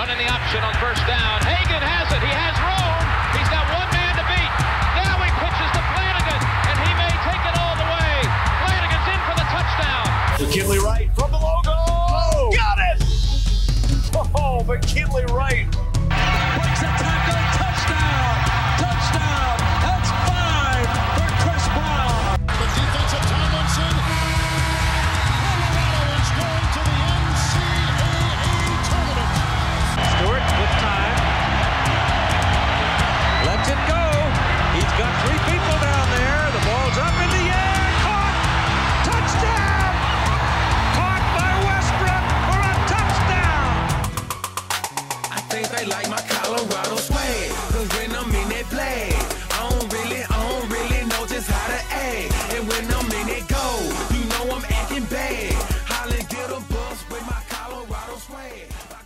Running the option on first down. Hagan has it. He has room. He's got one man to beat. Now he pitches to Flanagan, and he may take it all the way. Flanagan's in for the touchdown. McKinley Wright from the logo. Oh, got it! Oh, McKinley Wright. Breaks a tackle. Touchdown. Touchdown. That's 5 for Chris Brown. The defensive Tomlinson. Colorado is going to the NCAA tournament. Stewart with time. Lets it go. He's got 3 people down there. The ball's up in the air. Caught. Touchdown. Caught by Westbrook for a touchdown. I think they like my Colorado swag, 'cause when I'm in that play, I don't really know just how to act. And when I'm in it go, you know I'm acting bad. Holland get a bus with my Colorado swag.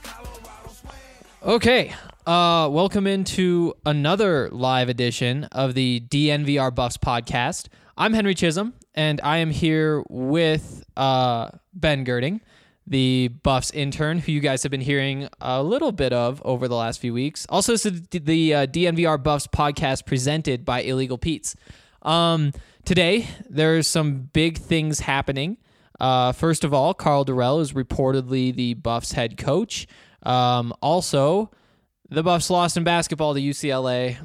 Okay, welcome into another live edition of the DNVR Buffs podcast. I'm Henry Chisholm, and I am here with Ben Girding, the Buffs intern, who you guys have been hearing a little bit of over the last few weeks. Also, this is the DNVR Buffs podcast presented by Illegal Pete's. Today, there's some big things happening. First of all, Karl Dorrell is reportedly the Buffs head coach. Also, the Buffs lost in basketball to UCLA.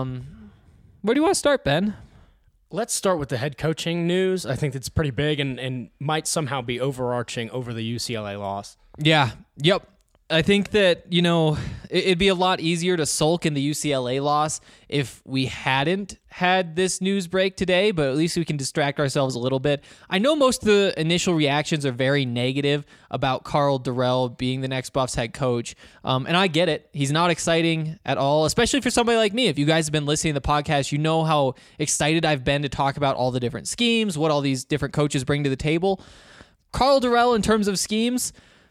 Where do you want to start, Ben? Let's start with the head coaching news. I think that's pretty big and might somehow be overarching over the UCLA loss. Yeah. Yep. I think that, it'd be a lot easier to sulk in the UCLA loss if we hadn't had this news break today, but at least we can distract ourselves a little bit. I know most of the initial reactions are very negative about Karl Dorrell being the next Buffs head coach, and I get it. He's not exciting at all, especially for somebody like me. If you guys have been listening to the podcast, you know how excited I've been to talk about all the different schemes, what all these different coaches bring to the table. Karl Dorrell, in terms of schemes,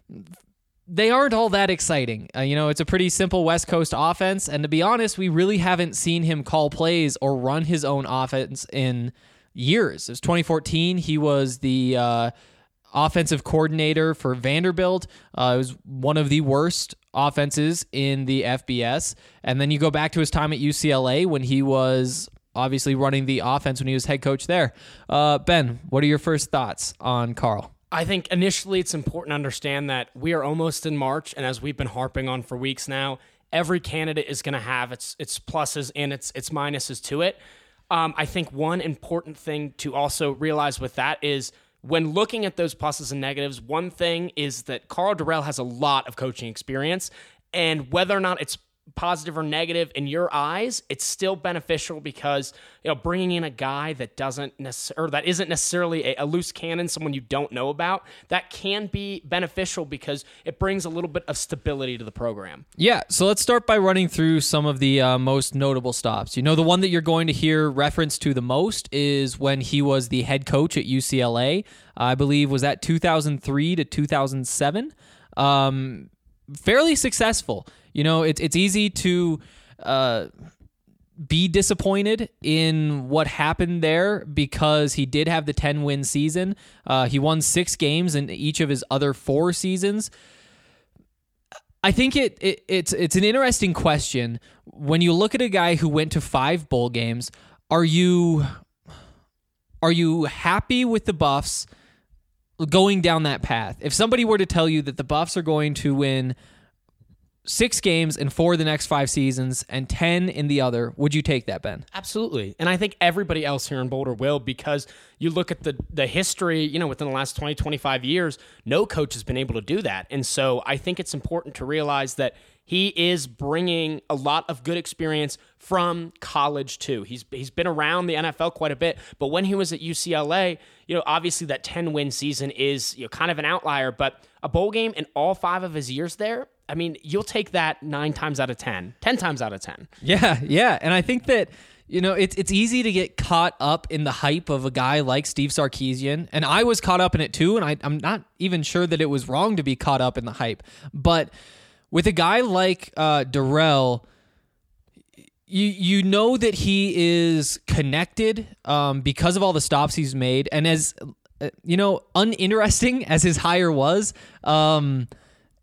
they aren't all that exciting. It's a pretty simple West Coast offense, and to be honest, we really haven't seen him call plays or run his own offense in years. It was 2014. He was the offensive coordinator for Vanderbilt. It was one of the worst offenses in the FBS. And then you go back to his time at UCLA when he was obviously running the offense when he was head coach there. Ben, what are your first thoughts on Karl? I think initially it's important to understand that we are almost in March, and as we've been harping on for weeks now, every candidate is going to have its pluses and its minuses to it. I think one important thing to also realize with that is when looking at those pluses and negatives, one thing is that Karl Dorrell has a lot of coaching experience, and whether or not it's positive or negative in your eyes, it's still beneficial because bringing in a guy that isn't necessarily a loose cannon, someone you don't know about, that can be beneficial because it brings a little bit of stability to the program. Yeah, so let's start by running through some of the most notable stops. The one that you're going to hear reference to the most is when he was the head coach at UCLA. I believe was that 2003 to 2007. Fairly successful. It's easy to be disappointed in what happened there because he did have the 10-win season. He won 6 games in each of his other 4 seasons. I think it's an interesting question. When you look at a guy who went to 5 bowl games, are you happy with the Buffs going down that path? If somebody were to tell you that the Buffs are going to win 6 games in 4 of the next 5 seasons and 10 in the other, would you take that, Ben? Absolutely. And I think everybody else here in Boulder will, because you look at the history, within the last 20, 25 years, no coach has been able to do that. And so I think it's important to realize that he is bringing a lot of good experience from college too. He's been around the NFL quite a bit, but when he was at UCLA, obviously that 10-win season is kind of an outlier, but a bowl game in all 5 of his years there, I mean, you'll take that 9 times out of 10, 10 times out of 10. Yeah. And I think that, it's easy to get caught up in the hype of a guy like Steve Sarkisian. And I was caught up in it too. And I'm not even sure that it was wrong to be caught up in the hype. But with a guy like Dorrell, you know that he is connected because of all the stops he's made. And as, uninteresting as his hire was,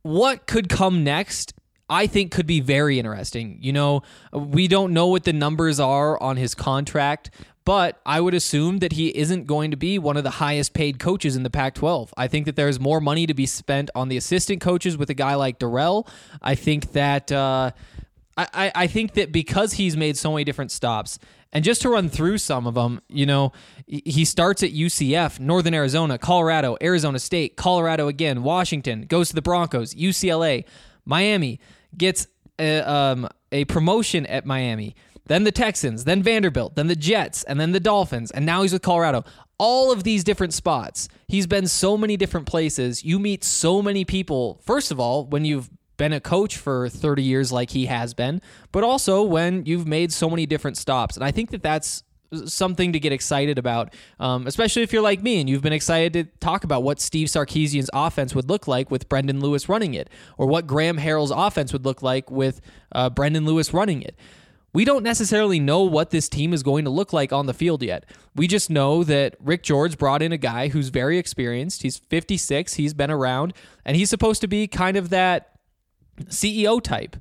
what could come next, I think, could be very interesting. You know, we don't know what the numbers are on his contract, but I would assume that he isn't going to be one of the highest paid coaches in the Pac-12. I think that there's more money to be spent on the assistant coaches with a guy like Dorrell. I think that I think that because he's made so many different stops, and just to run through some of them, you know, he starts at UCF, Northern Arizona, Colorado, Arizona State, Colorado again, Washington, goes to the Broncos, UCLA, Miami, gets a promotion at Miami, then the Texans, then Vanderbilt, then the Jets, and then the Dolphins, and now he's with Colorado. All of these different spots. He's been so many different places. You meet so many people, first of all, when you've been a coach for 30 years like he has been, but also when you've made so many different stops. And I think that that's something to get excited about, especially if you're like me and you've been excited to talk about what Steve Sarkisian's offense would look like with Brendan Lewis running it, or what Graham Harrell's offense would look like with Brendan Lewis running it. We don't necessarily know what this team is going to look like on the field yet. We just know that Rick George brought in a guy who's very experienced. He's 56. He's been around, and he's supposed to be kind of that CEO type.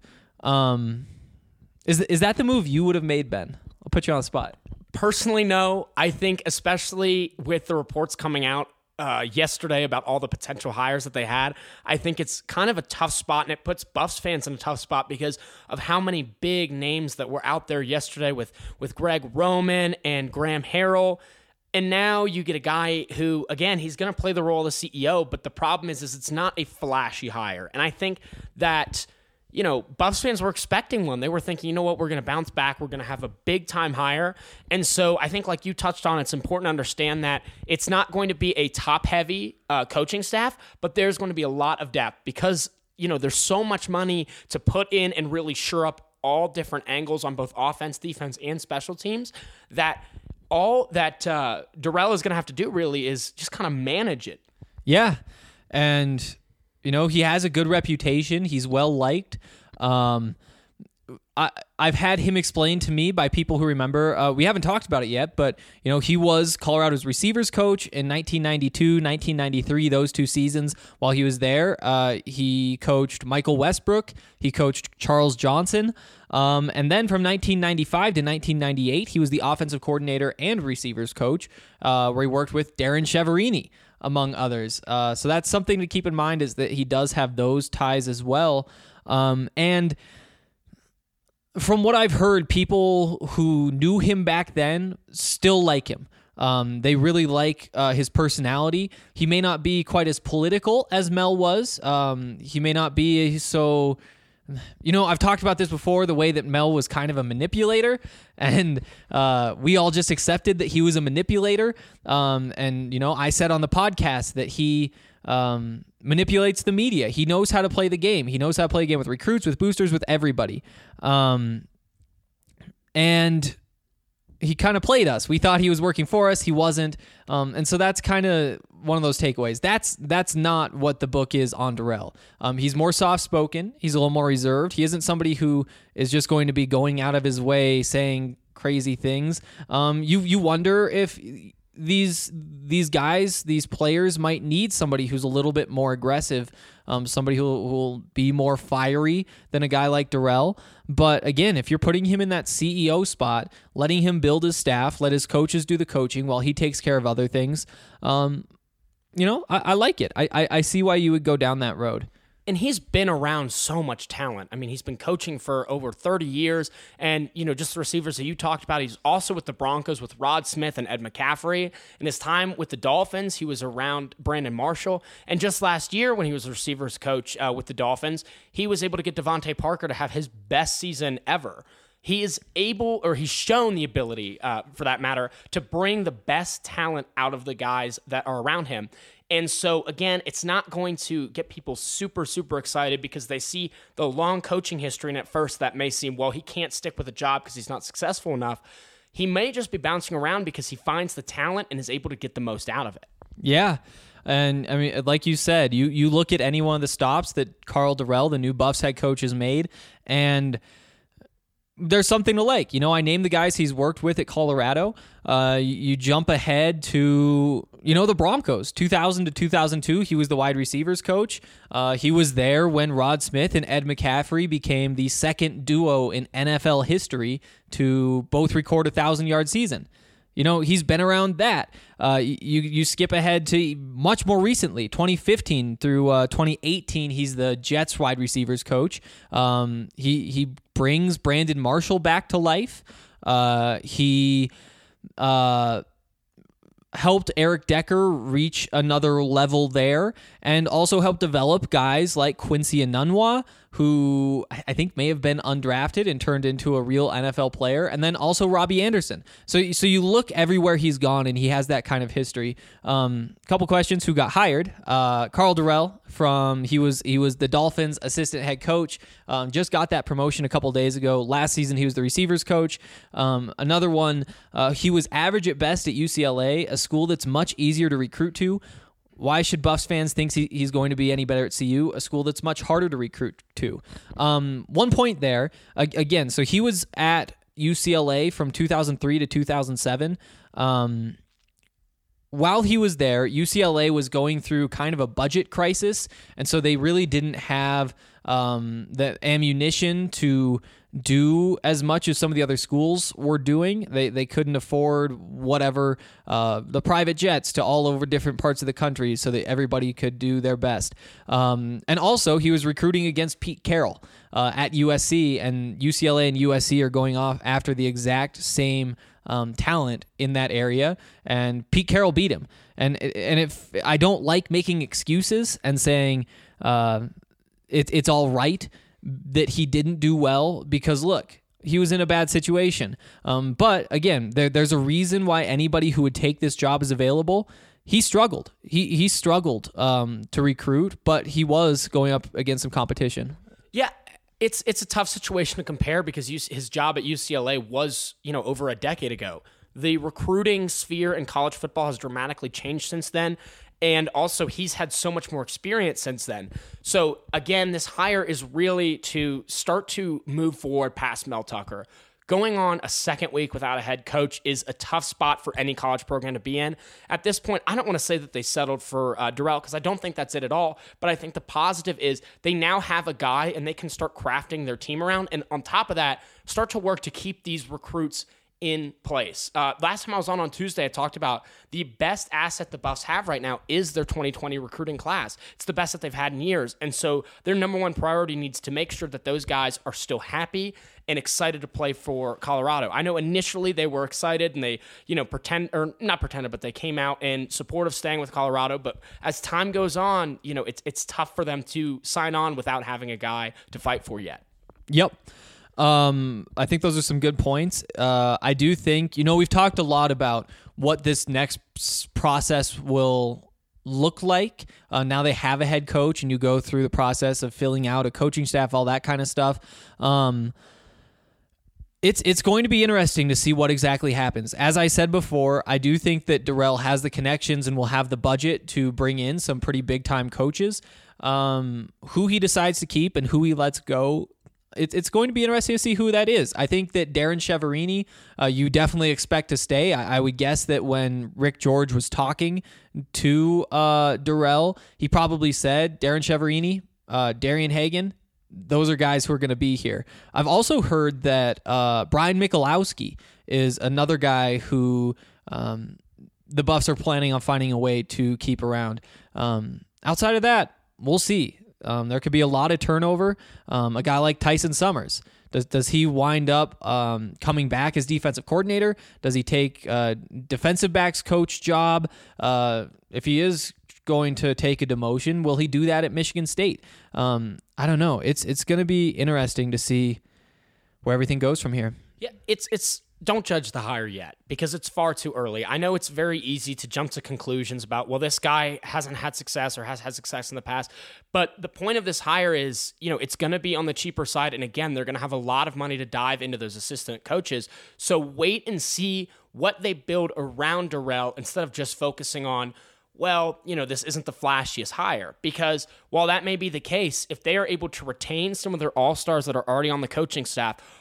Is that the move you would have made, Ben? I'll put you on the spot. Personally, no. I think especially with the reports coming out yesterday about all the potential hires that they had, I think it's kind of a tough spot, and it puts Buffs fans in a tough spot because of how many big names that were out there yesterday with Greg Roman and Graham Harrell. And now you get a guy who, again, he's going to play the role of the CEO, but the problem is it's not a flashy hire. And I think that, you know, Buffs fans were expecting one. They were thinking, you know what, we're going to bounce back. We're going to have a big-time hire. And so I think, like you touched on, it's important to understand that it's not going to be a top-heavy coaching staff, but there's going to be a lot of depth because, you know, there's so much money to put in and really shore up all different angles on both offense, defense, and special teams that all that Dorrell is going to have to do really is just kind of manage it. Yeah. And, you know, he has a good reputation. He's well liked. I've had him explained to me by people who remember. We haven't talked about it yet, but, you know, he was Colorado's receivers coach in 1992, 1993, those 2 seasons. While he was there, he coached Michael Westbrook. He coached Charles Johnson. And then from 1995 to 1998, he was the offensive coordinator and receivers coach, where he worked with Darren Chiaverini, among others. So that's something to keep in mind, is that he does have those ties as well. And from what I've heard, people who knew him back then still like him. They really like his personality. He may not be quite as political as Mel was. He may not be so... You know, I've talked about this before, the way that Mel was kind of a manipulator, and we all just accepted that he was a manipulator. And, you know, I said on the podcast that he manipulates the media. He knows how to play the game. He knows how to play a game with recruits, with boosters, with everybody. And he kind of played us. We thought he was working for us. He wasn't. And so that's kind of one of those takeaways. That's not what the book is on Dorrell. He's more soft-spoken. He's a little more reserved. He isn't somebody who is just going to be going out of his way saying crazy things. You wonder if these guys, these players, might need somebody who's a little bit more aggressive, somebody who will be more fiery than a guy like Dorrell. But again, if you're putting him in that CEO spot, letting him build his staff, let his coaches do the coaching while he takes care of other things, you know, I like it. I see why you would go down that road. And he's been around so much talent. I mean, he's been coaching for over 30 years. And, you know, just the receivers that you talked about, he's also with the Broncos with Rod Smith and Ed McCaffrey. In his time with the Dolphins, he was around Brandon Marshall. And just last year, when he was a receivers coach with the Dolphins, he was able to get Devontae Parker to have his best season ever. He is able, or he's shown the ability, for that matter, to bring the best talent out of the guys that are around him. And so, again, it's not going to get people super, super excited because they see the long coaching history, and at first that may seem, well, he can't stick with a job because he's not successful enough. He may just be bouncing around because he finds the talent and is able to get the most out of it. Yeah. And, I mean, like you said, you look at any one of the stops that Karl Dorrell, the new Buffs head coach, has made, and there's something to like. I named the guys he's worked with at Colorado. You jump ahead to, the Broncos, 2000 to 2002. He was the wide receivers coach. He was there when Rod Smith and Ed McCaffrey became the second duo in NFL history to both record 1,000-yard season. He's been around that. You skip ahead to much more recently, 2015 through 2018. He's the Jets wide receivers coach. He brings Brandon Marshall back to life. He helped Eric Decker reach another level there, and also helped develop guys like Quincy Enunwa, who I think may have been undrafted and turned into a real NFL player, and then also Robbie Anderson. So you look everywhere he's gone, and he has that kind of history. Couple questions: who got hired? Karl Dorrell he was the Dolphins' assistant head coach. Just got that promotion a couple days ago. Last season he was the receivers coach. Another one, he was average at best at UCLA, a school that's much easier to recruit to. Why should Buffs fans think he's going to be any better at CU, a school that's much harder to recruit to? 1 point there. Again, so he was at UCLA from 2003 to 2007. While he was there, UCLA was going through kind of a budget crisis, and so they really didn't have the ammunition to do as much as some of the other schools were doing. They couldn't afford whatever the private jets to all over different parts of the country so that everybody could do their best. And also, he was recruiting against Pete Carroll at USC, and UCLA and USC are going off after the exact same talent in that area, and Pete Carroll beat him. And if I don't like making excuses and saying it's all right that he didn't do well, because look, he was in a bad situation. But again, there's a reason why anybody who would take this job is available. He struggled. He struggled to recruit, but he was going up against some competition. Yeah. It's a tough situation to compare because his job at UCLA was, over a decade ago. The recruiting sphere in college football has dramatically changed since then. And also, he's had so much more experience since then. So, again, this hire is really to start to move forward past Mel Tucker. Going on a second week without a head coach is a tough spot for any college program to be in. At this point, I don't want to say that they settled for Dorrell, because I don't think that's it at all. But I think the positive is they now have a guy and they can start crafting their team around. And on top of that, start to work to keep these recruits in place. Last time I was on Tuesday, I talked about the best asset the Buffs have right now is their 2020 recruiting class. It's the best that they've had in years. And so their number one priority needs to make sure that those guys are still happy and excited to play for Colorado. I know initially they were excited and they, but they came out in support of staying with Colorado. But as time goes on, it's tough for them to sign on without having a guy to fight for yet. Yep. I think those are some good points. I do think, we've talked a lot about what this next process will look like. Now they have a head coach and you go through the process of filling out a coaching staff, all that kind of stuff. It's going to be interesting to see what exactly happens. As I said before, I do think that Dorrell has the connections and will have the budget to bring in some pretty big-time coaches. Who he decides to keep and who he lets go, it's going to be interesting to see who that is. I think that Darren Cheverini, you definitely expect to stay. I would guess that when Rick George was talking to Dorrell, he probably said Darren Cheverini, Darian Hagan, those are guys who are going to be here. I've also heard that Brian Michalowski is another guy who the Buffs are planning on finding a way to keep around. Outside of that, we'll see. There could be a lot of turnover. A guy like Tyson Summers, does he wind up coming back as defensive coordinator? Does he take defensive backs coach job? If he is going to take a demotion, will he do that at Michigan State? I don't know. It's going to be interesting to see where everything goes from here. Yeah, it's don't judge the hire yet because it's far too early. I know it's very easy to jump to conclusions about, well, this guy hasn't had success or has had success in the past. But the point of this hire is, it's going to be on the cheaper side. And again, they're going to have a lot of money to dive into those assistant coaches. So wait and see what they build around Dorrell instead of just focusing on, well, this isn't the flashiest hire. Because while that may be the case, if they are able to retain some of their all-stars that are already on the coaching staff,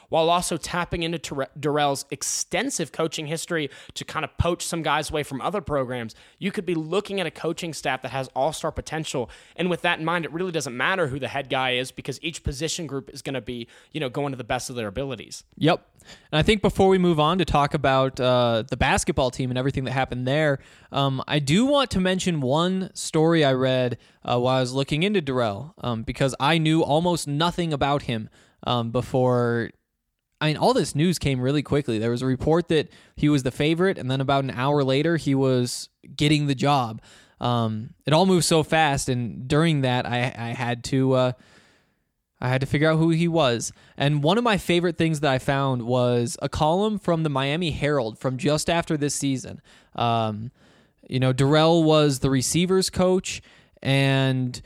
while also tapping into Darrell's extensive coaching history to kind of poach some guys away from other programs. You could be looking at a coaching staff that has all-star potential. And with that in mind, it really doesn't matter who the head guy is because each position group is going to be, going to the best of their abilities. Yep. And I think before we move on to talk about the basketball team and everything that happened there, I do want to mention one story I read while I was looking into Darrell, because I knew almost nothing about him before. I mean, all this news came really quickly. There was a report that he was the favorite, and then about an hour later, he was getting the job. It all moved so fast, and during that, I had to figure out who he was. And one of my favorite things that I found was a column from the Miami Herald from just after this season. Darrell was the receivers coach, and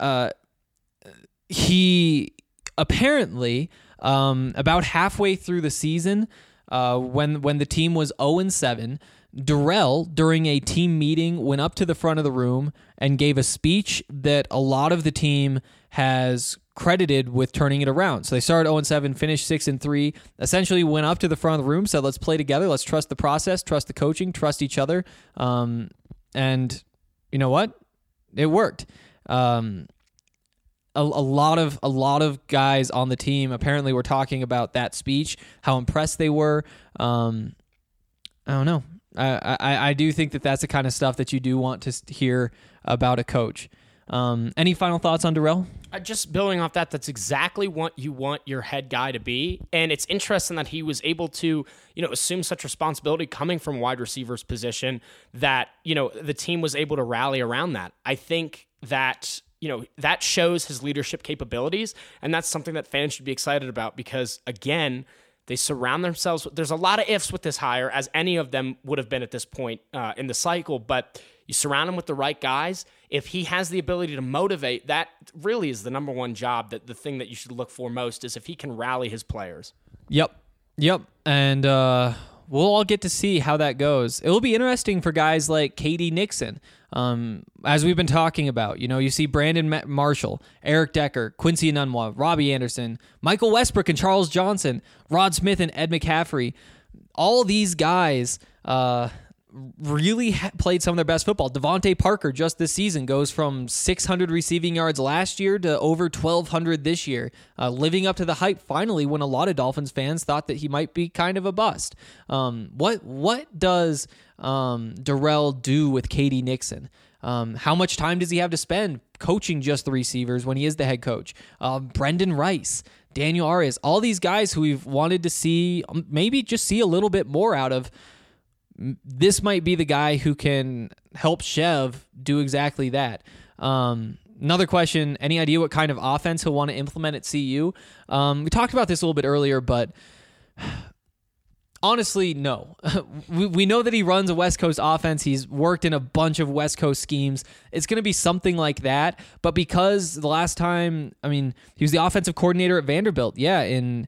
he apparently, about halfway through the season, when the team was 0-7, Darrell, during a team meeting, went up to the front of the room and gave a speech that a lot of the team has credited with turning it around. So they started 0-7, finished 6-3, essentially went up to the front of the room, said, let's play together, let's trust the process, trust the coaching, trust each other. And you know what? It worked. A lot of guys on the team apparently were talking about that speech, how impressed they were. I don't know. I do think that that's the kind of stuff that you do want to hear about a coach. Any final thoughts on Darrell? Just building off that, that's exactly what you want your head guy to be. And it's interesting that he was able to, assume such responsibility coming from wide receiver's position that, the team was able to rally around that. I think that, that shows his leadership capabilities. And that's something that fans should be excited about because, again, they surround themselves. There's a lot of ifs with this hire, as any of them would have been at this point in the cycle, but you surround him with the right guys. If he has the ability to motivate, that really is the number one job. That the thing that you should look for most is if he can rally his players. Yep. And we'll all get to see how that goes. It will be interesting for guys like KD Nixon. As we've been talking about, you see Brandon Marshall, Eric Decker, Quincy Enunwa, Robbie Anderson, Michael Westbrook and Charles Johnson, Rod Smith and Ed McCaffrey. All these guys really played some of their best football. Devontae Parker just this season goes from 600 receiving yards last year to over 1,200 this year, living up to the hype finally when a lot of Dolphins fans thought that he might be kind of a bust. What does Darrell do with KD Nixon? How much time does he have to spend coaching just the receivers when he is the head coach? Brendan Rice, Daniel Arias, all these guys who we've wanted to see, maybe just see a little bit more out of. This might be the guy who can help Chev do exactly that. Another question, any idea what kind of offense he'll want to implement at CU? We talked about this a little bit earlier, but honestly, no. We know that he runs a West Coast offense. He's worked in a bunch of West Coast schemes. It's going to be something like that, but because the last time, he was the offensive coordinator at Vanderbilt, in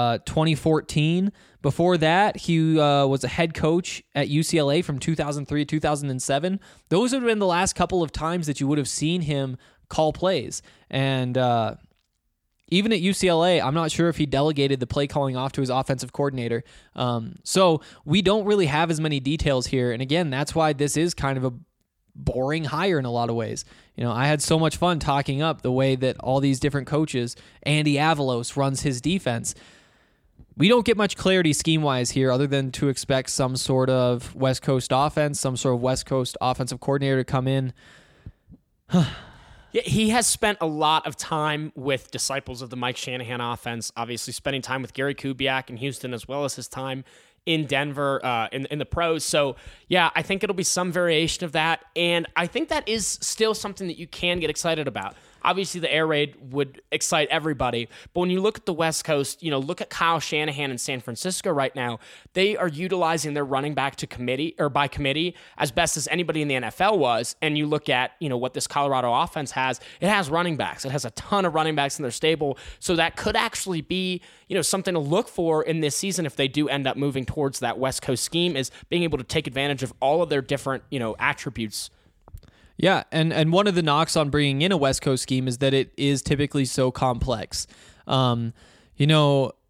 2014. Before that, he was a head coach at UCLA from 2003 to 2007. Those have been the last couple of times that you would have seen him call plays. And even at UCLA, I'm not sure if he delegated the play calling off to his offensive coordinator. So we don't really have as many details here. And again, that's why this is kind of a boring hire in a lot of ways. I had so much fun talking up the way that all these different coaches, Andy Avalos runs his defense. We don't get much clarity scheme-wise here other than to expect some sort of West Coast offense, some sort of West Coast offensive coordinator to come in. Yeah, he has spent a lot of time with disciples of the Mike Shanahan offense, obviously spending time with Gary Kubiak in Houston as well as his time in Denver in the pros. So, yeah, I think it'll be some variation of that, and I think that is still something that you can get excited about. Obviously, the air raid would excite everybody, but when you look at the West Coast, look at Kyle Shanahan in San Francisco right now. They are utilizing their running back by committee as best as anybody in the NFL was. And you look at what this Colorado offense has. It has running backs. It has a ton of running backs in their stable. So that could actually be something to look for in this season if they do end up moving towards that West Coast scheme, is being able to take advantage of all of their different attributes. Yeah, and one of the knocks on bringing in a West Coast scheme is that it is typically so complex.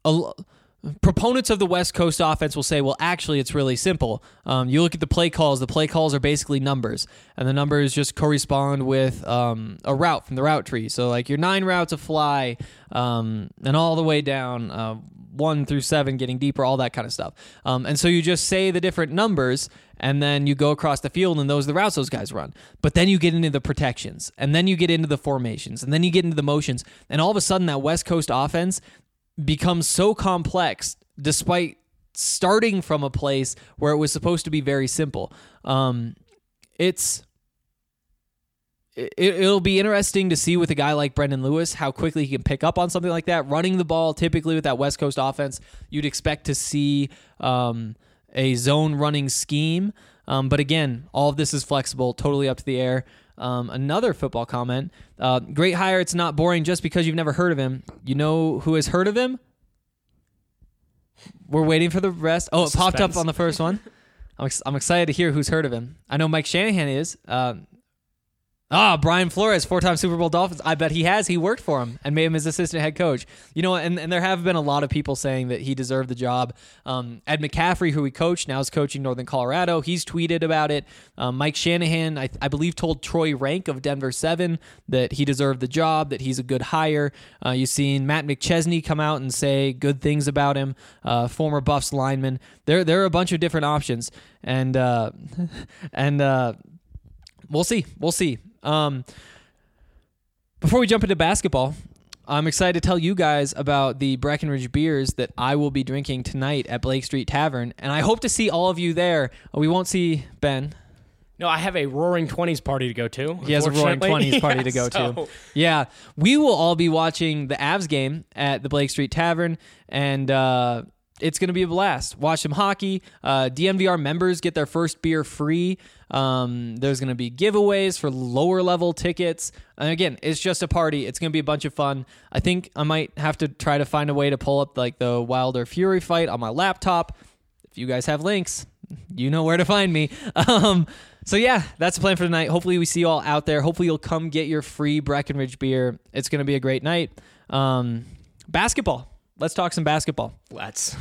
proponents of the West Coast offense will say, well, actually, it's really simple. You look at the play calls. The play calls are basically numbers, and the numbers just correspond with a route from the route tree. So, like your 9 routes of fly, and all the way down 1 through 7, getting deeper, all that kind of stuff. And so you just say the different numbers, and then you go across the field, and those are the routes those guys run. But then you get into the protections, and then you get into the formations, and then you get into the motions, and all of a sudden that West Coast offense becomes so complex despite starting from a place where it was supposed to be very simple. It'll be interesting to see with a guy like Brendan Lewis how quickly he can pick up on something like that. Running the ball, typically with that West Coast offense, you'd expect to see a zone running scheme. But again, all of this is flexible, totally up to the air. Another football comment. Great hire. It's not boring just because you've never heard of him. You know who has heard of him? We're waiting for the rest. Oh, it popped up on the first one. I'm excited to hear who's heard of him. I know Mike Shanahan is. Brian Flores, 4-time Super Bowl Dolphins. I bet he has. He worked for him and made him his assistant head coach. You know, and there have been a lot of people saying that he deserved the job. Ed McCaffrey, who he coached, now is coaching Northern Colorado. He's tweeted about it. Mike Shanahan, I believe, told Troy Rank of Denver 7 that he deserved the job, that he's a good hire. You've seen Matt McChesney come out and say good things about him, former Buffs lineman. There are a bunch of different options, and we'll see. We'll see. Before we jump into basketball, I'm excited to tell you guys about the Breckenridge beers that I will be drinking tonight at Blake Street Tavern, and I hope to see all of you there. We won't see Ben. No, I have a Roaring 20s party to go to. He has a Roaring 20s party to go to. Yeah, we will all be watching the Avs game at the Blake Street Tavern, and it's going to be a blast. Watch some hockey. DNVR members get their first beer free. There's going to be giveaways for lower level tickets. And again, it's just a party. It's going to be a bunch of fun. I think I might have to try to find a way to pull up like the Wilder Fury fight on my laptop. If you guys have links, you know where to find me. So yeah, that's the plan for tonight. Hopefully we see you all out there. Hopefully you'll come get your free Breckenridge beer. It's going to be a great night. Basketball. Let's talk some basketball. Let's.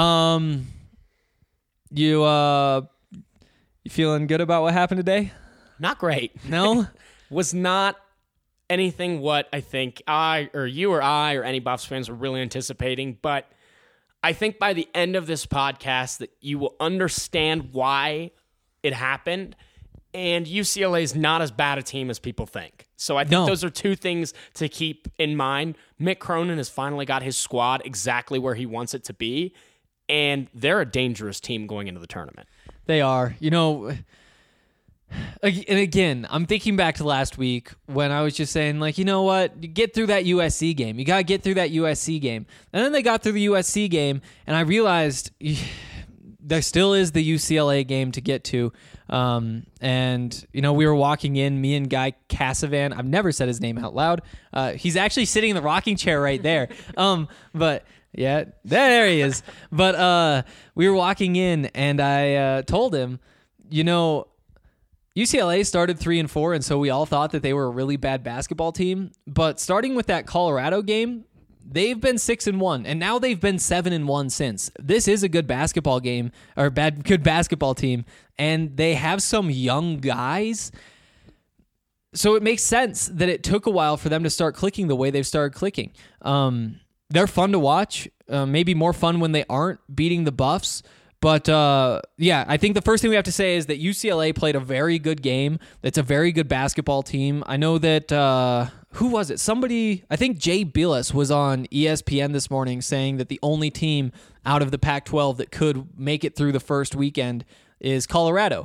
You feeling good about what happened today? Not great. No? Was not anything what I think I or you or I or any Buffs fans were really anticipating, but I think by the end of this podcast that you will understand why it happened, and UCLA is not as bad a team as people think. So I think those are two things to keep in mind. Mick Cronin has finally got his squad exactly where he wants it to be, and they're a dangerous team going into the tournament. They are. You know, and again, I'm thinking back to last week when I was just saying, like, you know what? You get through that USC game. You got to get through that USC game. And then they got through the USC game, and I realized there still is the UCLA game to get to. And, you know, we were walking in, me and Guy Cassavan. I've never said his name out loud. He's actually sitting in the rocking chair right there. But yeah, there he is. But we were walking in, and I told him, you know, UCLA started 3-4, and so we all thought that they were a really bad basketball team. But starting with that Colorado game, they've been 6-1, and now they've been 7-1 since. This is a good basketball game, or good basketball team, and they have some young guys. So it makes sense that it took a while for them to start clicking the way they've started clicking. They're fun to watch, maybe more fun when they aren't beating the Buffs. But, yeah, I think the first thing we have to say is that UCLA played a very good game. It's a very good basketball team. I know that, who was it? Somebody, I think Jay Bilas was on ESPN this morning saying that the only team out of the Pac-12 that could make it through the first weekend is Colorado.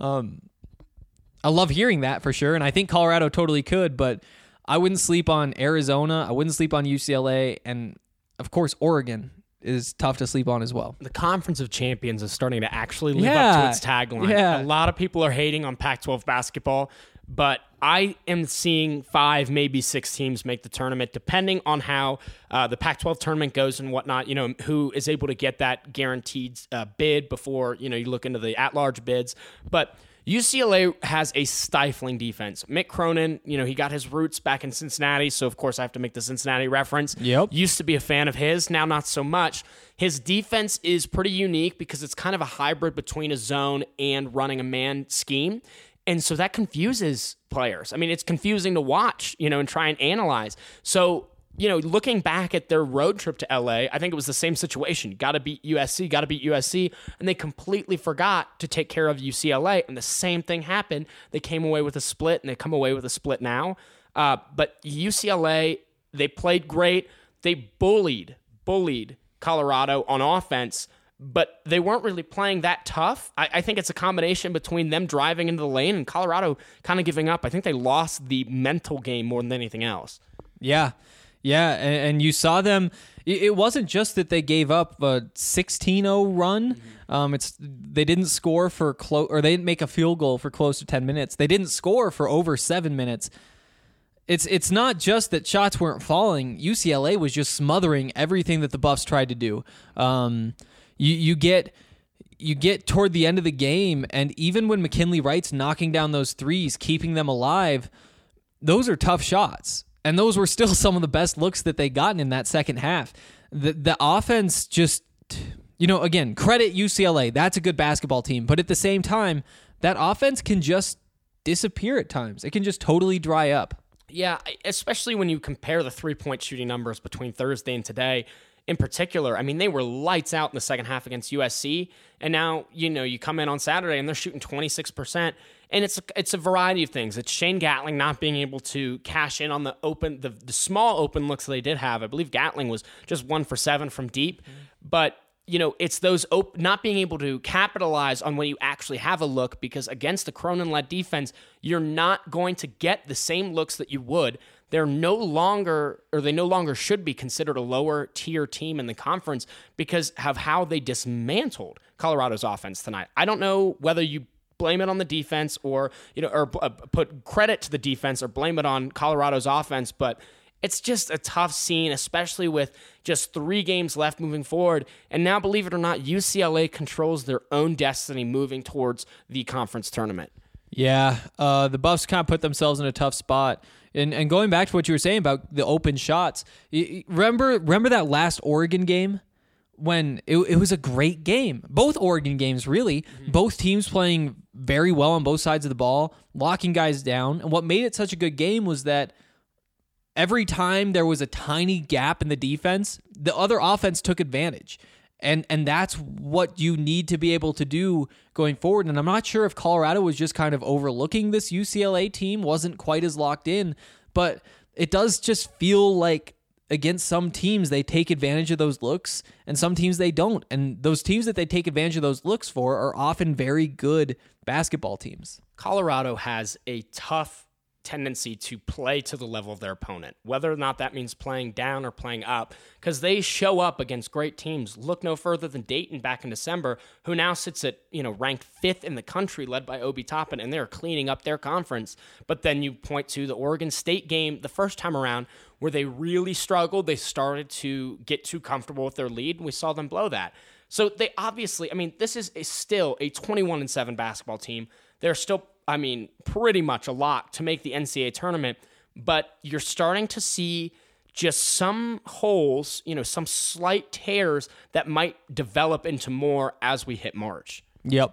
I love hearing that for sure, and I think Colorado totally could, but I wouldn't sleep on Arizona. I wouldn't sleep on UCLA, and, of course, Oregon is tough to sleep on as well. The Conference of Champions is starting to actually live up to its tagline. Yeah. A lot of people are hating on Pac-12 basketball, but I am seeing 5, maybe 6 teams make the tournament, depending on how the Pac-12 tournament goes and whatnot, you know, who is able to get that guaranteed bid before, you know, you look into the at-large bids. But UCLA has a stifling defense. Mick Cronin, he got his roots back in Cincinnati, so of course I have to make the Cincinnati reference. Yep. Used to be a fan of his, now not so much. His defense is pretty unique because it's kind of a hybrid between a zone and running a man scheme. And so that confuses players. I mean, it's confusing to watch, and try and analyze. So, looking back at their road trip to LA, I think it was the same situation. Got to beat USC, and they completely forgot to take care of UCLA, and the same thing happened. They came away with a split, and they come away with a split now. But UCLA, they played great. They bullied Colorado on offense, but they weren't really playing that tough. I think it's a combination between them driving into the lane and Colorado kind of giving up. I think they lost the mental game more than anything else. Yeah. Yeah, and you saw them. It wasn't just that they gave up a 16-0 run. They didn't score for or they didn't make a field goal for close to 10 minutes. They didn't score for over 7 minutes. It's not just that shots weren't falling. UCLA was just smothering everything that the Buffs tried to do. You get toward the end of the game, and even when McKinley Wright's knocking down those threes, keeping them alive, those are tough shots. And those were still some of the best looks that they gotten in that second half. The offense just, again, credit UCLA. That's a good basketball team. But at the same time, that offense can just disappear at times. It can just totally dry up. Yeah, especially when you compare the three-point shooting numbers between Thursday and today. In particular, I mean, they were lights out in the second half against USC, and now, you come in on Saturday and they're shooting 26%, and it's a variety of things. It's Shane Gatling not being able to cash in on the small open looks that they did have. I believe Gatling was just 1 for 7 from deep, but it's those not being able to capitalize on when you actually have a look, because against the Cronin-led defense, you're not going to get the same looks that you would. They no longer should be considered a lower tier team in the conference because of how they dismantled Colorado's offense tonight. I don't know whether you blame it on the defense or put credit to the defense or blame it on Colorado's offense, but it's just a tough scene, especially with just 3 games left moving forward. And now, believe it or not, UCLA controls their own destiny moving towards the conference tournament. Yeah, the Buffs kind of put themselves in a tough spot. And going back to what you were saying about the open shots, remember that last Oregon game when it was a great game? Both Oregon games, really. Mm-hmm. Both teams playing very well on both sides of the ball, locking guys down. And what made it such a good game was that every time there was a tiny gap in the defense, the other offense took advantage. And that's what you need to be able to do going forward. And I'm not sure if Colorado was just kind of overlooking this UCLA team, wasn't quite as locked in, but it does just feel like against some teams, they take advantage of those looks and some teams they don't. And those teams that they take advantage of those looks for are often very good basketball teams. Colorado has a tough tendency to play to the level of their opponent, whether or not that means playing down or playing up, because they show up against great teams. Look no further than Dayton back in December, who now sits at ranked 5th in the country, led by Obi Toppin, and they're cleaning up their conference. But then you point to the Oregon State game the first time around, where they really struggled. They started to get too comfortable with their lead, and we saw them blow that. So they obviously, this is still a 21-7 basketball team. They're still, pretty much a lock to make the NCAA tournament, but you're starting to see just some holes, some slight tears that might develop into more as we hit March. Yep.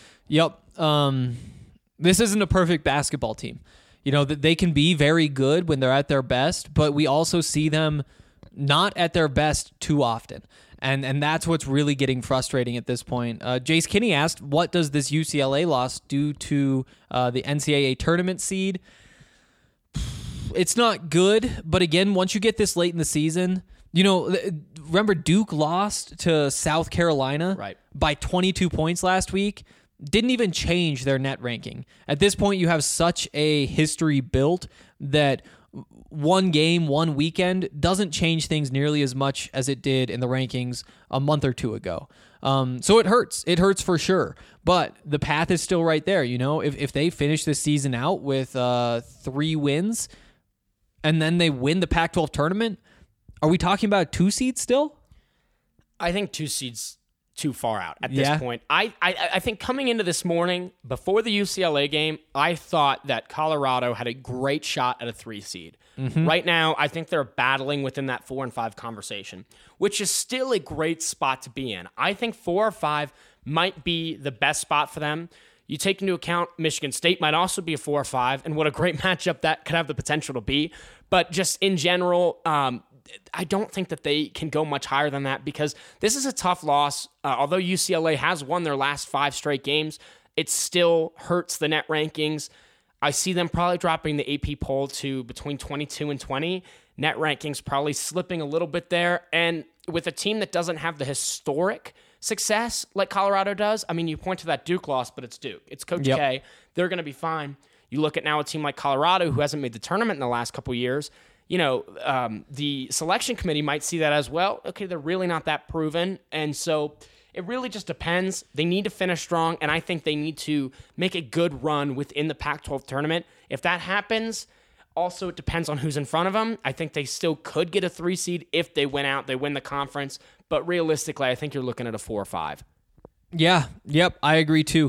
This isn't a perfect basketball team. They can be very good when they're at their best, but we also see them not at their best too often. And that's what's really getting frustrating at this point. Jace Kinney asked, what does this UCLA loss do to the NCAA tournament seed? It's not good, but again, once you get this late in the season, remember Duke lost to South Carolina by 22 points last week? Didn't even change their net ranking. At this point, you have such a history built that one game, one weekend doesn't change things nearly as much as it did in the rankings a month or two ago. So it hurts. It hurts for sure. But the path is still right there. If they finish this season out with 3 wins and then they win the Pac-12 tournament, are we talking about a 2 seed still? I think 2 seeds too far out at this point. I think coming into this morning, before the UCLA game, I thought that Colorado had a great shot at a 3 seed. Right now, I think they're battling within that 4 and 5 conversation, which is still a great spot to be in. I think 4 or 5 might be the best spot for them. You take into account Michigan State might also be a 4 or 5, and what a great matchup that could have the potential to be. But just in general, I don't think that they can go much higher than that because this is a tough loss. Although UCLA has won their last 5 straight games, it still hurts the net rankings. I see them probably dropping the AP poll to between 22 and 20. Net rankings probably slipping a little bit there. And with a team that doesn't have the historic success like Colorado does, I mean, you point to that Duke loss, but it's Duke. It's Coach K. They're going to be fine. You look at now a team like Colorado who hasn't made the tournament in the last couple of years. You know, the selection committee might see that as well. Okay, they're really not that proven. And so it really just depends. They need to finish strong, and I think they need to make a good run within the Pac-12 tournament. If that happens, also it depends on who's in front of them. I think they still could get a 3 seed if they win out, they win the conference. But realistically, I think you're looking at a 4 or 5. Yeah, yep, I agree too.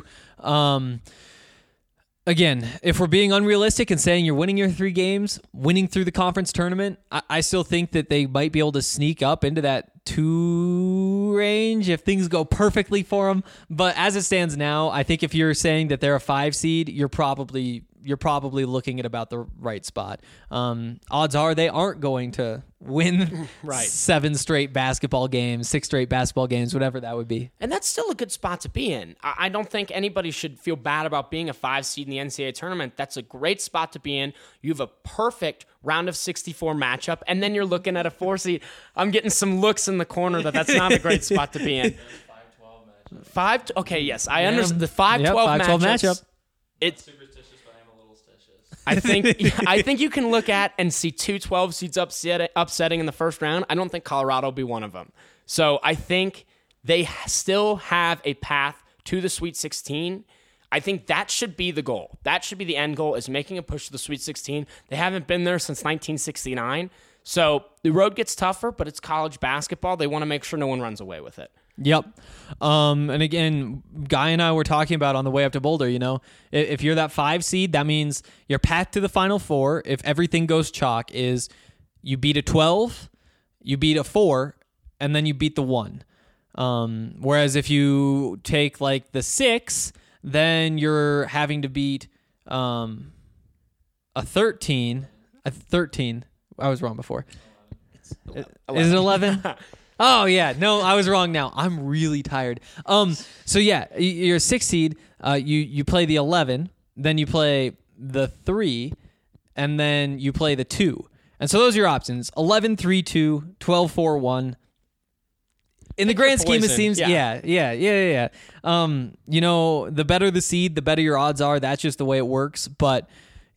Again, if we're being unrealistic and saying you're winning your 3 games, winning through the conference tournament, I still think that they might be able to sneak up into that 2 range if things go perfectly for them. But as it stands now, I think if you're saying that they're a 5 seed, you're probably looking at about the right spot. Odds are they aren't going to win 7 straight basketball games, 6 straight basketball games, whatever that would be. And that's still a good spot to be in. I don't think anybody should feel bad about being a 5 seed in the NCAA tournament. That's a great spot to be in. You have a perfect round of 64 matchup, and then you're looking at a 4 seed. I'm getting some looks in the corner that's not a great spot to be in. 5-12 matchup. Okay, yes, I understand the 5-12 matchup. It's I think you can look at and see 2 12 seeds upsetting in the first round. I don't think Colorado will be one of them. So I think they still have a path to the Sweet 16. I think that should be the goal. That should be the end goal, is making a push to the Sweet 16. They haven't been there since 1969. So the road gets tougher, but it's college basketball. They want to make sure no one runs away with it. Yep. And again, Guy and I were talking about on the way up to Boulder, you know, if you're that 5 seed, that means your path to the Final Four, if everything goes chalk, is you beat a 12, you beat a 4, and then you beat the 1. Whereas if you take like the 6, then you're having to beat a 13. A 13. I was wrong before. Is it 11? Oh, yeah. No, I was wrong now. I'm really tired. So, yeah, you're a 6 seed. You play the 11, then you play the 3, and then you play the 2. And so those are your options. 11, 3, 2, 12, 4, 1. In the grand scheme, it seems, yeah. You know, the better the seed, the better your odds are. That's just the way it works. But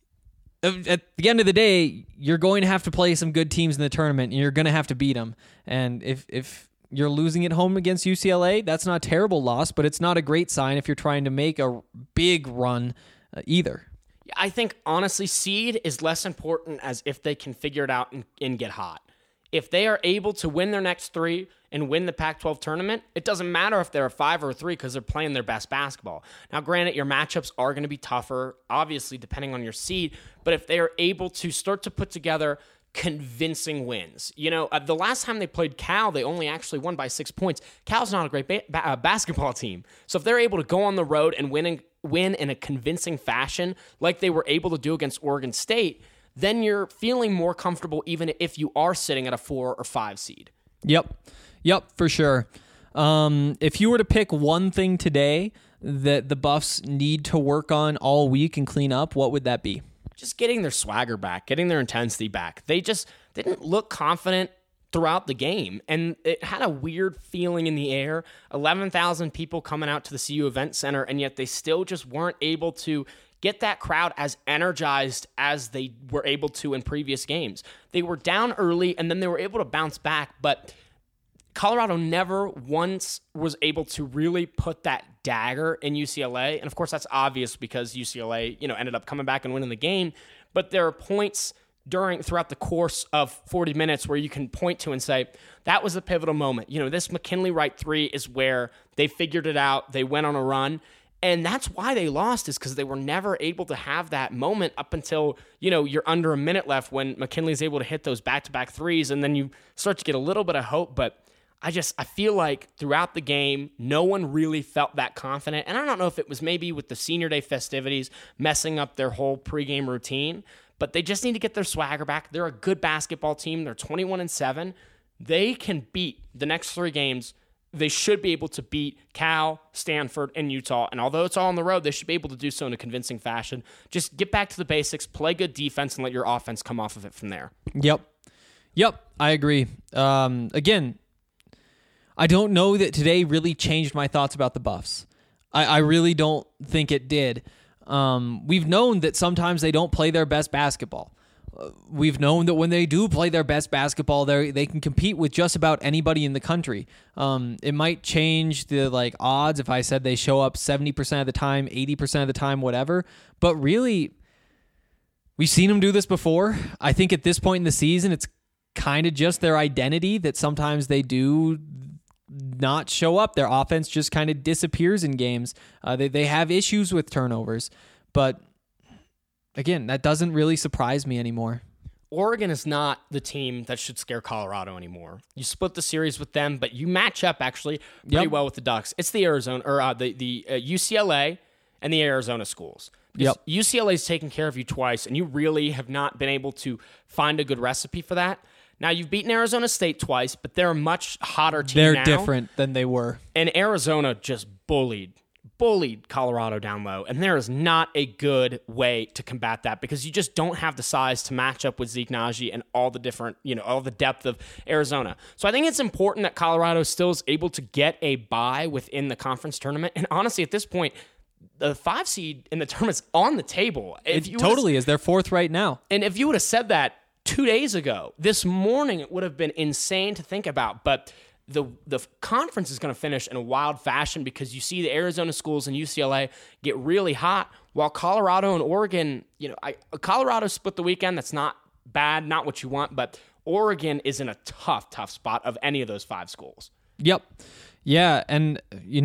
at the end of the day, you're going to have to play some good teams in the tournament, and you're going to have to beat them. And if you're losing at home against UCLA, that's not a terrible loss, but it's not a great sign if you're trying to make a big run either. I think, honestly, seed is less important as if they can figure it out and get hot. If they are able to win their next 3 and win the Pac-12 tournament, it doesn't matter if they're a 5 or a 3 because they're playing their best basketball. Now, granted, your matchups are going to be tougher, obviously, depending on your seed, but if they are able to start to put together convincing wins. You know, the last time they played Cal, they only actually won by 6 points. Cal's not a great basketball team. So if they're able to go on the road and win in a convincing fashion like they were able to do against Oregon State, then you're feeling more comfortable even if you are sitting at a 4 or 5 seed. Yep, for sure. If you were to pick one thing today that the Buffs need to work on all week and clean up, what would that be? Just getting their swagger back, getting their intensity back. They just didn't look confident throughout the game, and it had a weird feeling in the air. 11,000 people coming out to the CU Event Center, and yet they still just weren't able to get that crowd as energized as they were able to in previous games. They were down early, and then they were able to bounce back, but Colorado never once was able to really put that dagger in UCLA. And of course, that's obvious because UCLA, ended up coming back and winning the game. But there are points throughout the course of 40 minutes where you can point to and say, that was a pivotal moment. This McKinley Wright 3 is where they figured it out. They went on a run. And that's why they lost, is because they were never able to have that moment up until, you're under a minute left when McKinley's able to hit those back-to-back threes, and then you start to get a little bit of hope. But I feel like throughout the game, no one really felt that confident. And I don't know if it was maybe with the senior day festivities messing up their whole pregame routine, but they just need to get their swagger back. They're a good basketball team. They're 21-7. They can beat the next 3 games. They should be able to beat Cal, Stanford, and Utah. And although it's all on the road, they should be able to do so in a convincing fashion. Just get back to the basics, play good defense, and let your offense come off of it from there. Yep, I agree. Again, I don't know that today really changed my thoughts about the Buffs. I really don't think it did. We've known that sometimes they don't play their best basketball. We've known that when they do play their best basketball, they can compete with just about anybody in the country. It might change the odds if I said they show up 70% of the time, 80% of the time, whatever. But really, we've seen them do this before. I think at this point in the season, it's kind of just their identity that sometimes they do not show up. Their offense just kind of disappears in games. They have issues with turnovers, but again, that doesn't really surprise me anymore. Oregon is not the team that should scare Colorado anymore. You split the series with them, but you match up actually pretty well with the Ducks. It's the Arizona or the UCLA and the Arizona schools. Because UCLA's taken care of you twice, and you really have not been able to find a good recipe for that. Now, you've beaten Arizona State twice, but they're a much hotter team now. They're different than they were. And Arizona just bullied Colorado down low, and there is not a good way to combat that because you just don't have the size to match up with Zeke Naji and all the different, all the depth of Arizona. So I think it's important that Colorado still is able to get a bye within the conference tournament. And honestly, at this point, the 5 seed in the tournament's on the table. It totally is. They're 4th right now. And if you would have said that 2 days ago, this morning, it would have been insane to think about. But the conference is going to finish in a wild fashion because you see the Arizona schools and UCLA get really hot, while Colorado and Oregon, Colorado split the weekend. That's not bad, not what you want, but Oregon is in a tough spot of any of those 5 schools. Yep. Yeah, and,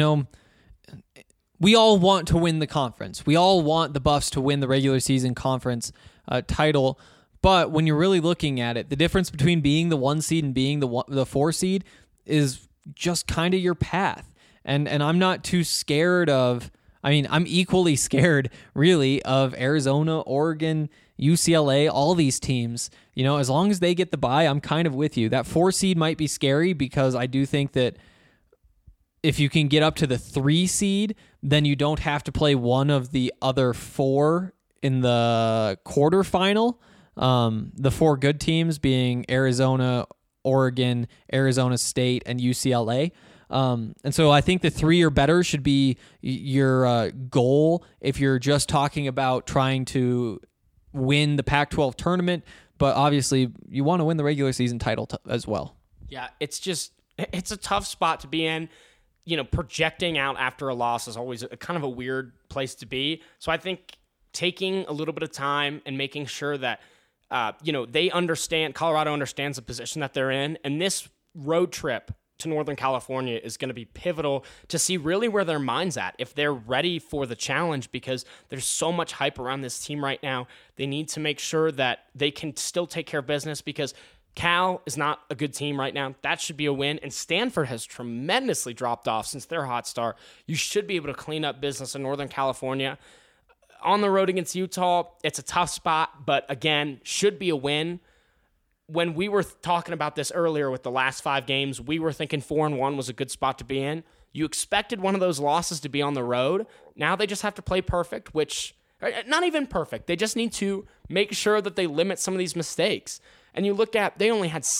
we all want to win the conference. We all want the Buffs to win the regular season conference title, but when you're really looking at it, the difference between being the 1 seed and being the 4 seed is just kind of your path. And I'm not too scared of, I'm equally scared really of Arizona, Oregon, UCLA, all these teams. As long as they get the bye, I'm kind of with you. That 4 seed might be scary because I do think that if you can get up to the 3 seed, then you don't have to play one of the other 4 in the quarterfinal. The 4 good teams being Arizona, Oregon, Arizona State, and UCLA. And so I think the 3 or better should be your goal if you're just talking about trying to win the Pac-12 tournament. But obviously, you want to win the regular season title as well. Yeah, it's a tough spot to be in. Projecting out after a loss is always kind of a weird place to be. So I think taking a little bit of time and making sure that they understand, Colorado understands the position that they're in, and this road trip to Northern California is going to be pivotal to see really where their mind's at, if they're ready for the challenge, because there's so much hype around this team right now. They need to make sure that they can still take care of business because Cal is not a good team right now. That should be a win. And Stanford has tremendously dropped off since their hot start. You should be able to clean up business in Northern California. On the road against Utah, it's a tough spot, but again, should be a win. When we were talking about this earlier with the last 5 games, we were thinking 4-1 was a good spot to be in. You expected one of those losses to be on the road. Now they just have to play perfect, which, not even perfect. They just need to make sure that they limit some of these mistakes. And you look at, they only had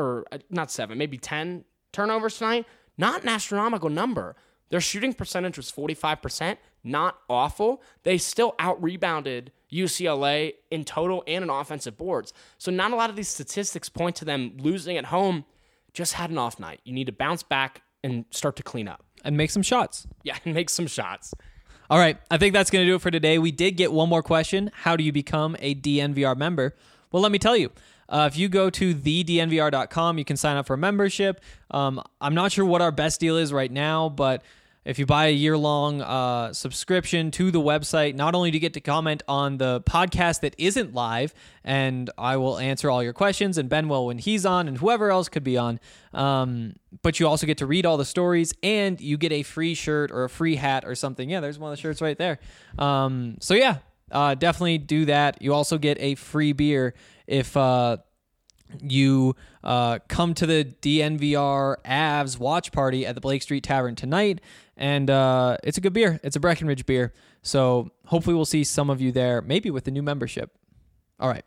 10 turnovers tonight. Not an astronomical number. Their shooting percentage was 45%. Not awful. They still out-rebounded UCLA in total and in offensive boards. So not a lot of these statistics point to them losing at home. Just had an off night. You need to bounce back and start to clean up. And make some shots. Yeah, and make some shots. All right, I think that's going to do it for today. We did get one more question. How do you become a DNVR member? Well, let me tell you. If you go to thednvr.com, you can sign up for a membership. I'm not sure what our best deal is right now, but if you buy a year-long subscription to the website, not only do you get to comment on the podcast that isn't live, and I will answer all your questions, and Ben will when he's on, and whoever else could be on, but you also get to read all the stories, and you get a free shirt or a free hat or something. Yeah, there's one of the shirts right there. So yeah, definitely do that. You also get a free beer if you come to the DNVR Avs watch party at the Blake Street Tavern tonight. And it's a good beer. It's a Breckenridge beer. So hopefully we'll see some of you there, maybe with the new membership. All right.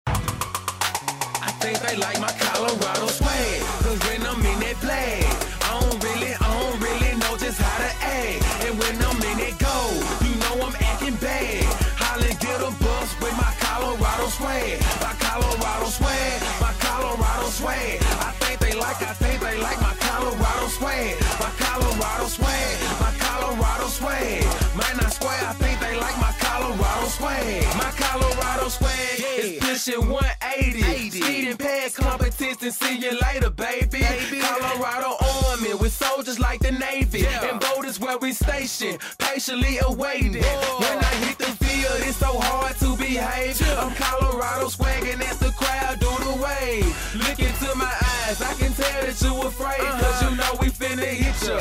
I think they like my Colorado swag, 'cause when I'm in that play, I don't really know just how to act. And when I'm in that go, you know I'm acting bad. Holla, get a bus with my Colorado swag. My Colorado swag, my Colorado swag. I think they like my Colorado swag. My Colorado swag, my Colorado swag. Man, I swear, I think they like my Colorado swag. My Colorado swag is pushing 180. Speeding past competition, see you later, baby. Colorado Army with soldiers like the Navy. And boat is where we station, patiently awaiting. When I hit the field, it's so hard to behave. I'm Colorado swagging as the crowd do the wave. Look into my eyes, I can tell that you afraid. 'Cause you know we finna hit ya.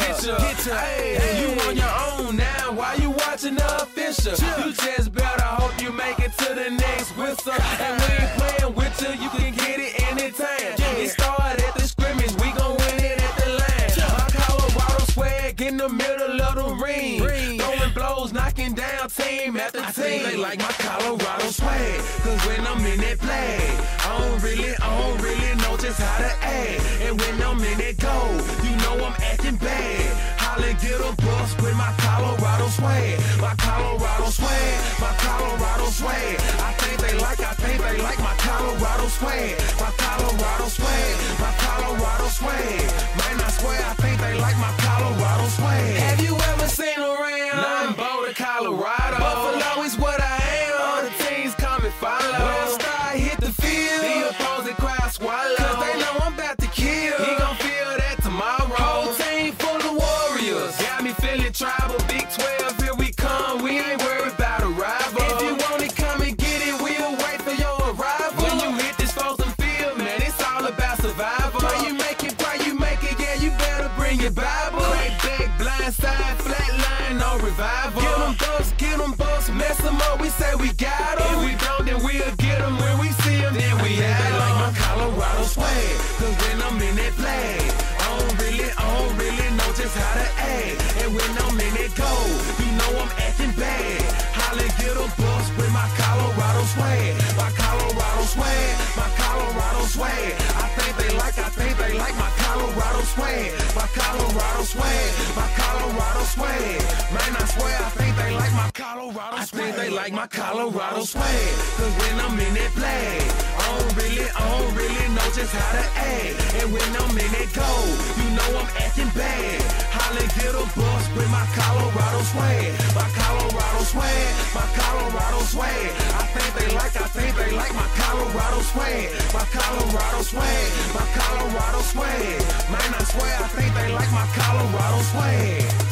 Hey, you on your own now, why you watching the official? You just better hope you make it to the next whistle. And we ain't playing with you, you can get it anytime. It started at the scrimmage, we gon' win it at the line. My Colorado swag in the middle of the ring. Throwing blows, knocking down team after team. I think they like my Colorado swag, 'cause when I'm in that play, I don't really know just how to act. And when I'm in that go, you know I'm acting bad. Holla, get a bus with my Colorado swag. My Colorado swag, my Colorado swag. I think they like my Colorado swag. My Colorado swag, my Colorado swag. Man, I swear, I think they like my Colorado swag. Have you ever seen around? Nothing but Colorado. Buffalo is what I am. All the teams come and follow. When Star hit the field, the opposing crowd swallow. 'Cause they know I'm about to kill. He gon' feel that tomorrow. Whole team full of warriors. Got me feeling tribal. Big 12, here we come. We ain't worried about a rival. If you want it, come and get it. We'll wait for your arrival. When you hit this frozen field, man, it's all about survival. Pray you make it, yeah, you better bring your Bible. Crack back, blind side, flat line, no revival. Get them bucks, mess them up, we say we got them. If we don't, then we'll get them. When we see them, then we have them. Like my Colorado swag, 'cause when I'm in that play, I don't really know just how to act. And when I'm in that go, you know I'm acting bad. Holla, get a bus with my Colorado swag. My Colorado swag, my Colorado swag. I think they like my Colorado swag. My Colorado swag, my Colorado swag. Man, I swear, I think they like my Colorado swag. I think they like my Colorado swag. 'Cause when I'm in that play, I don't really know just how to act. And when I'm in that go, you know I'm acting bad. Holla, get a bus with my Colorado swag. My Colorado swag, my Colorado swag. I think they like my Colorado swag. My Colorado swag, my Colorado swag. Man, I swear, I think they like my Colorado swag.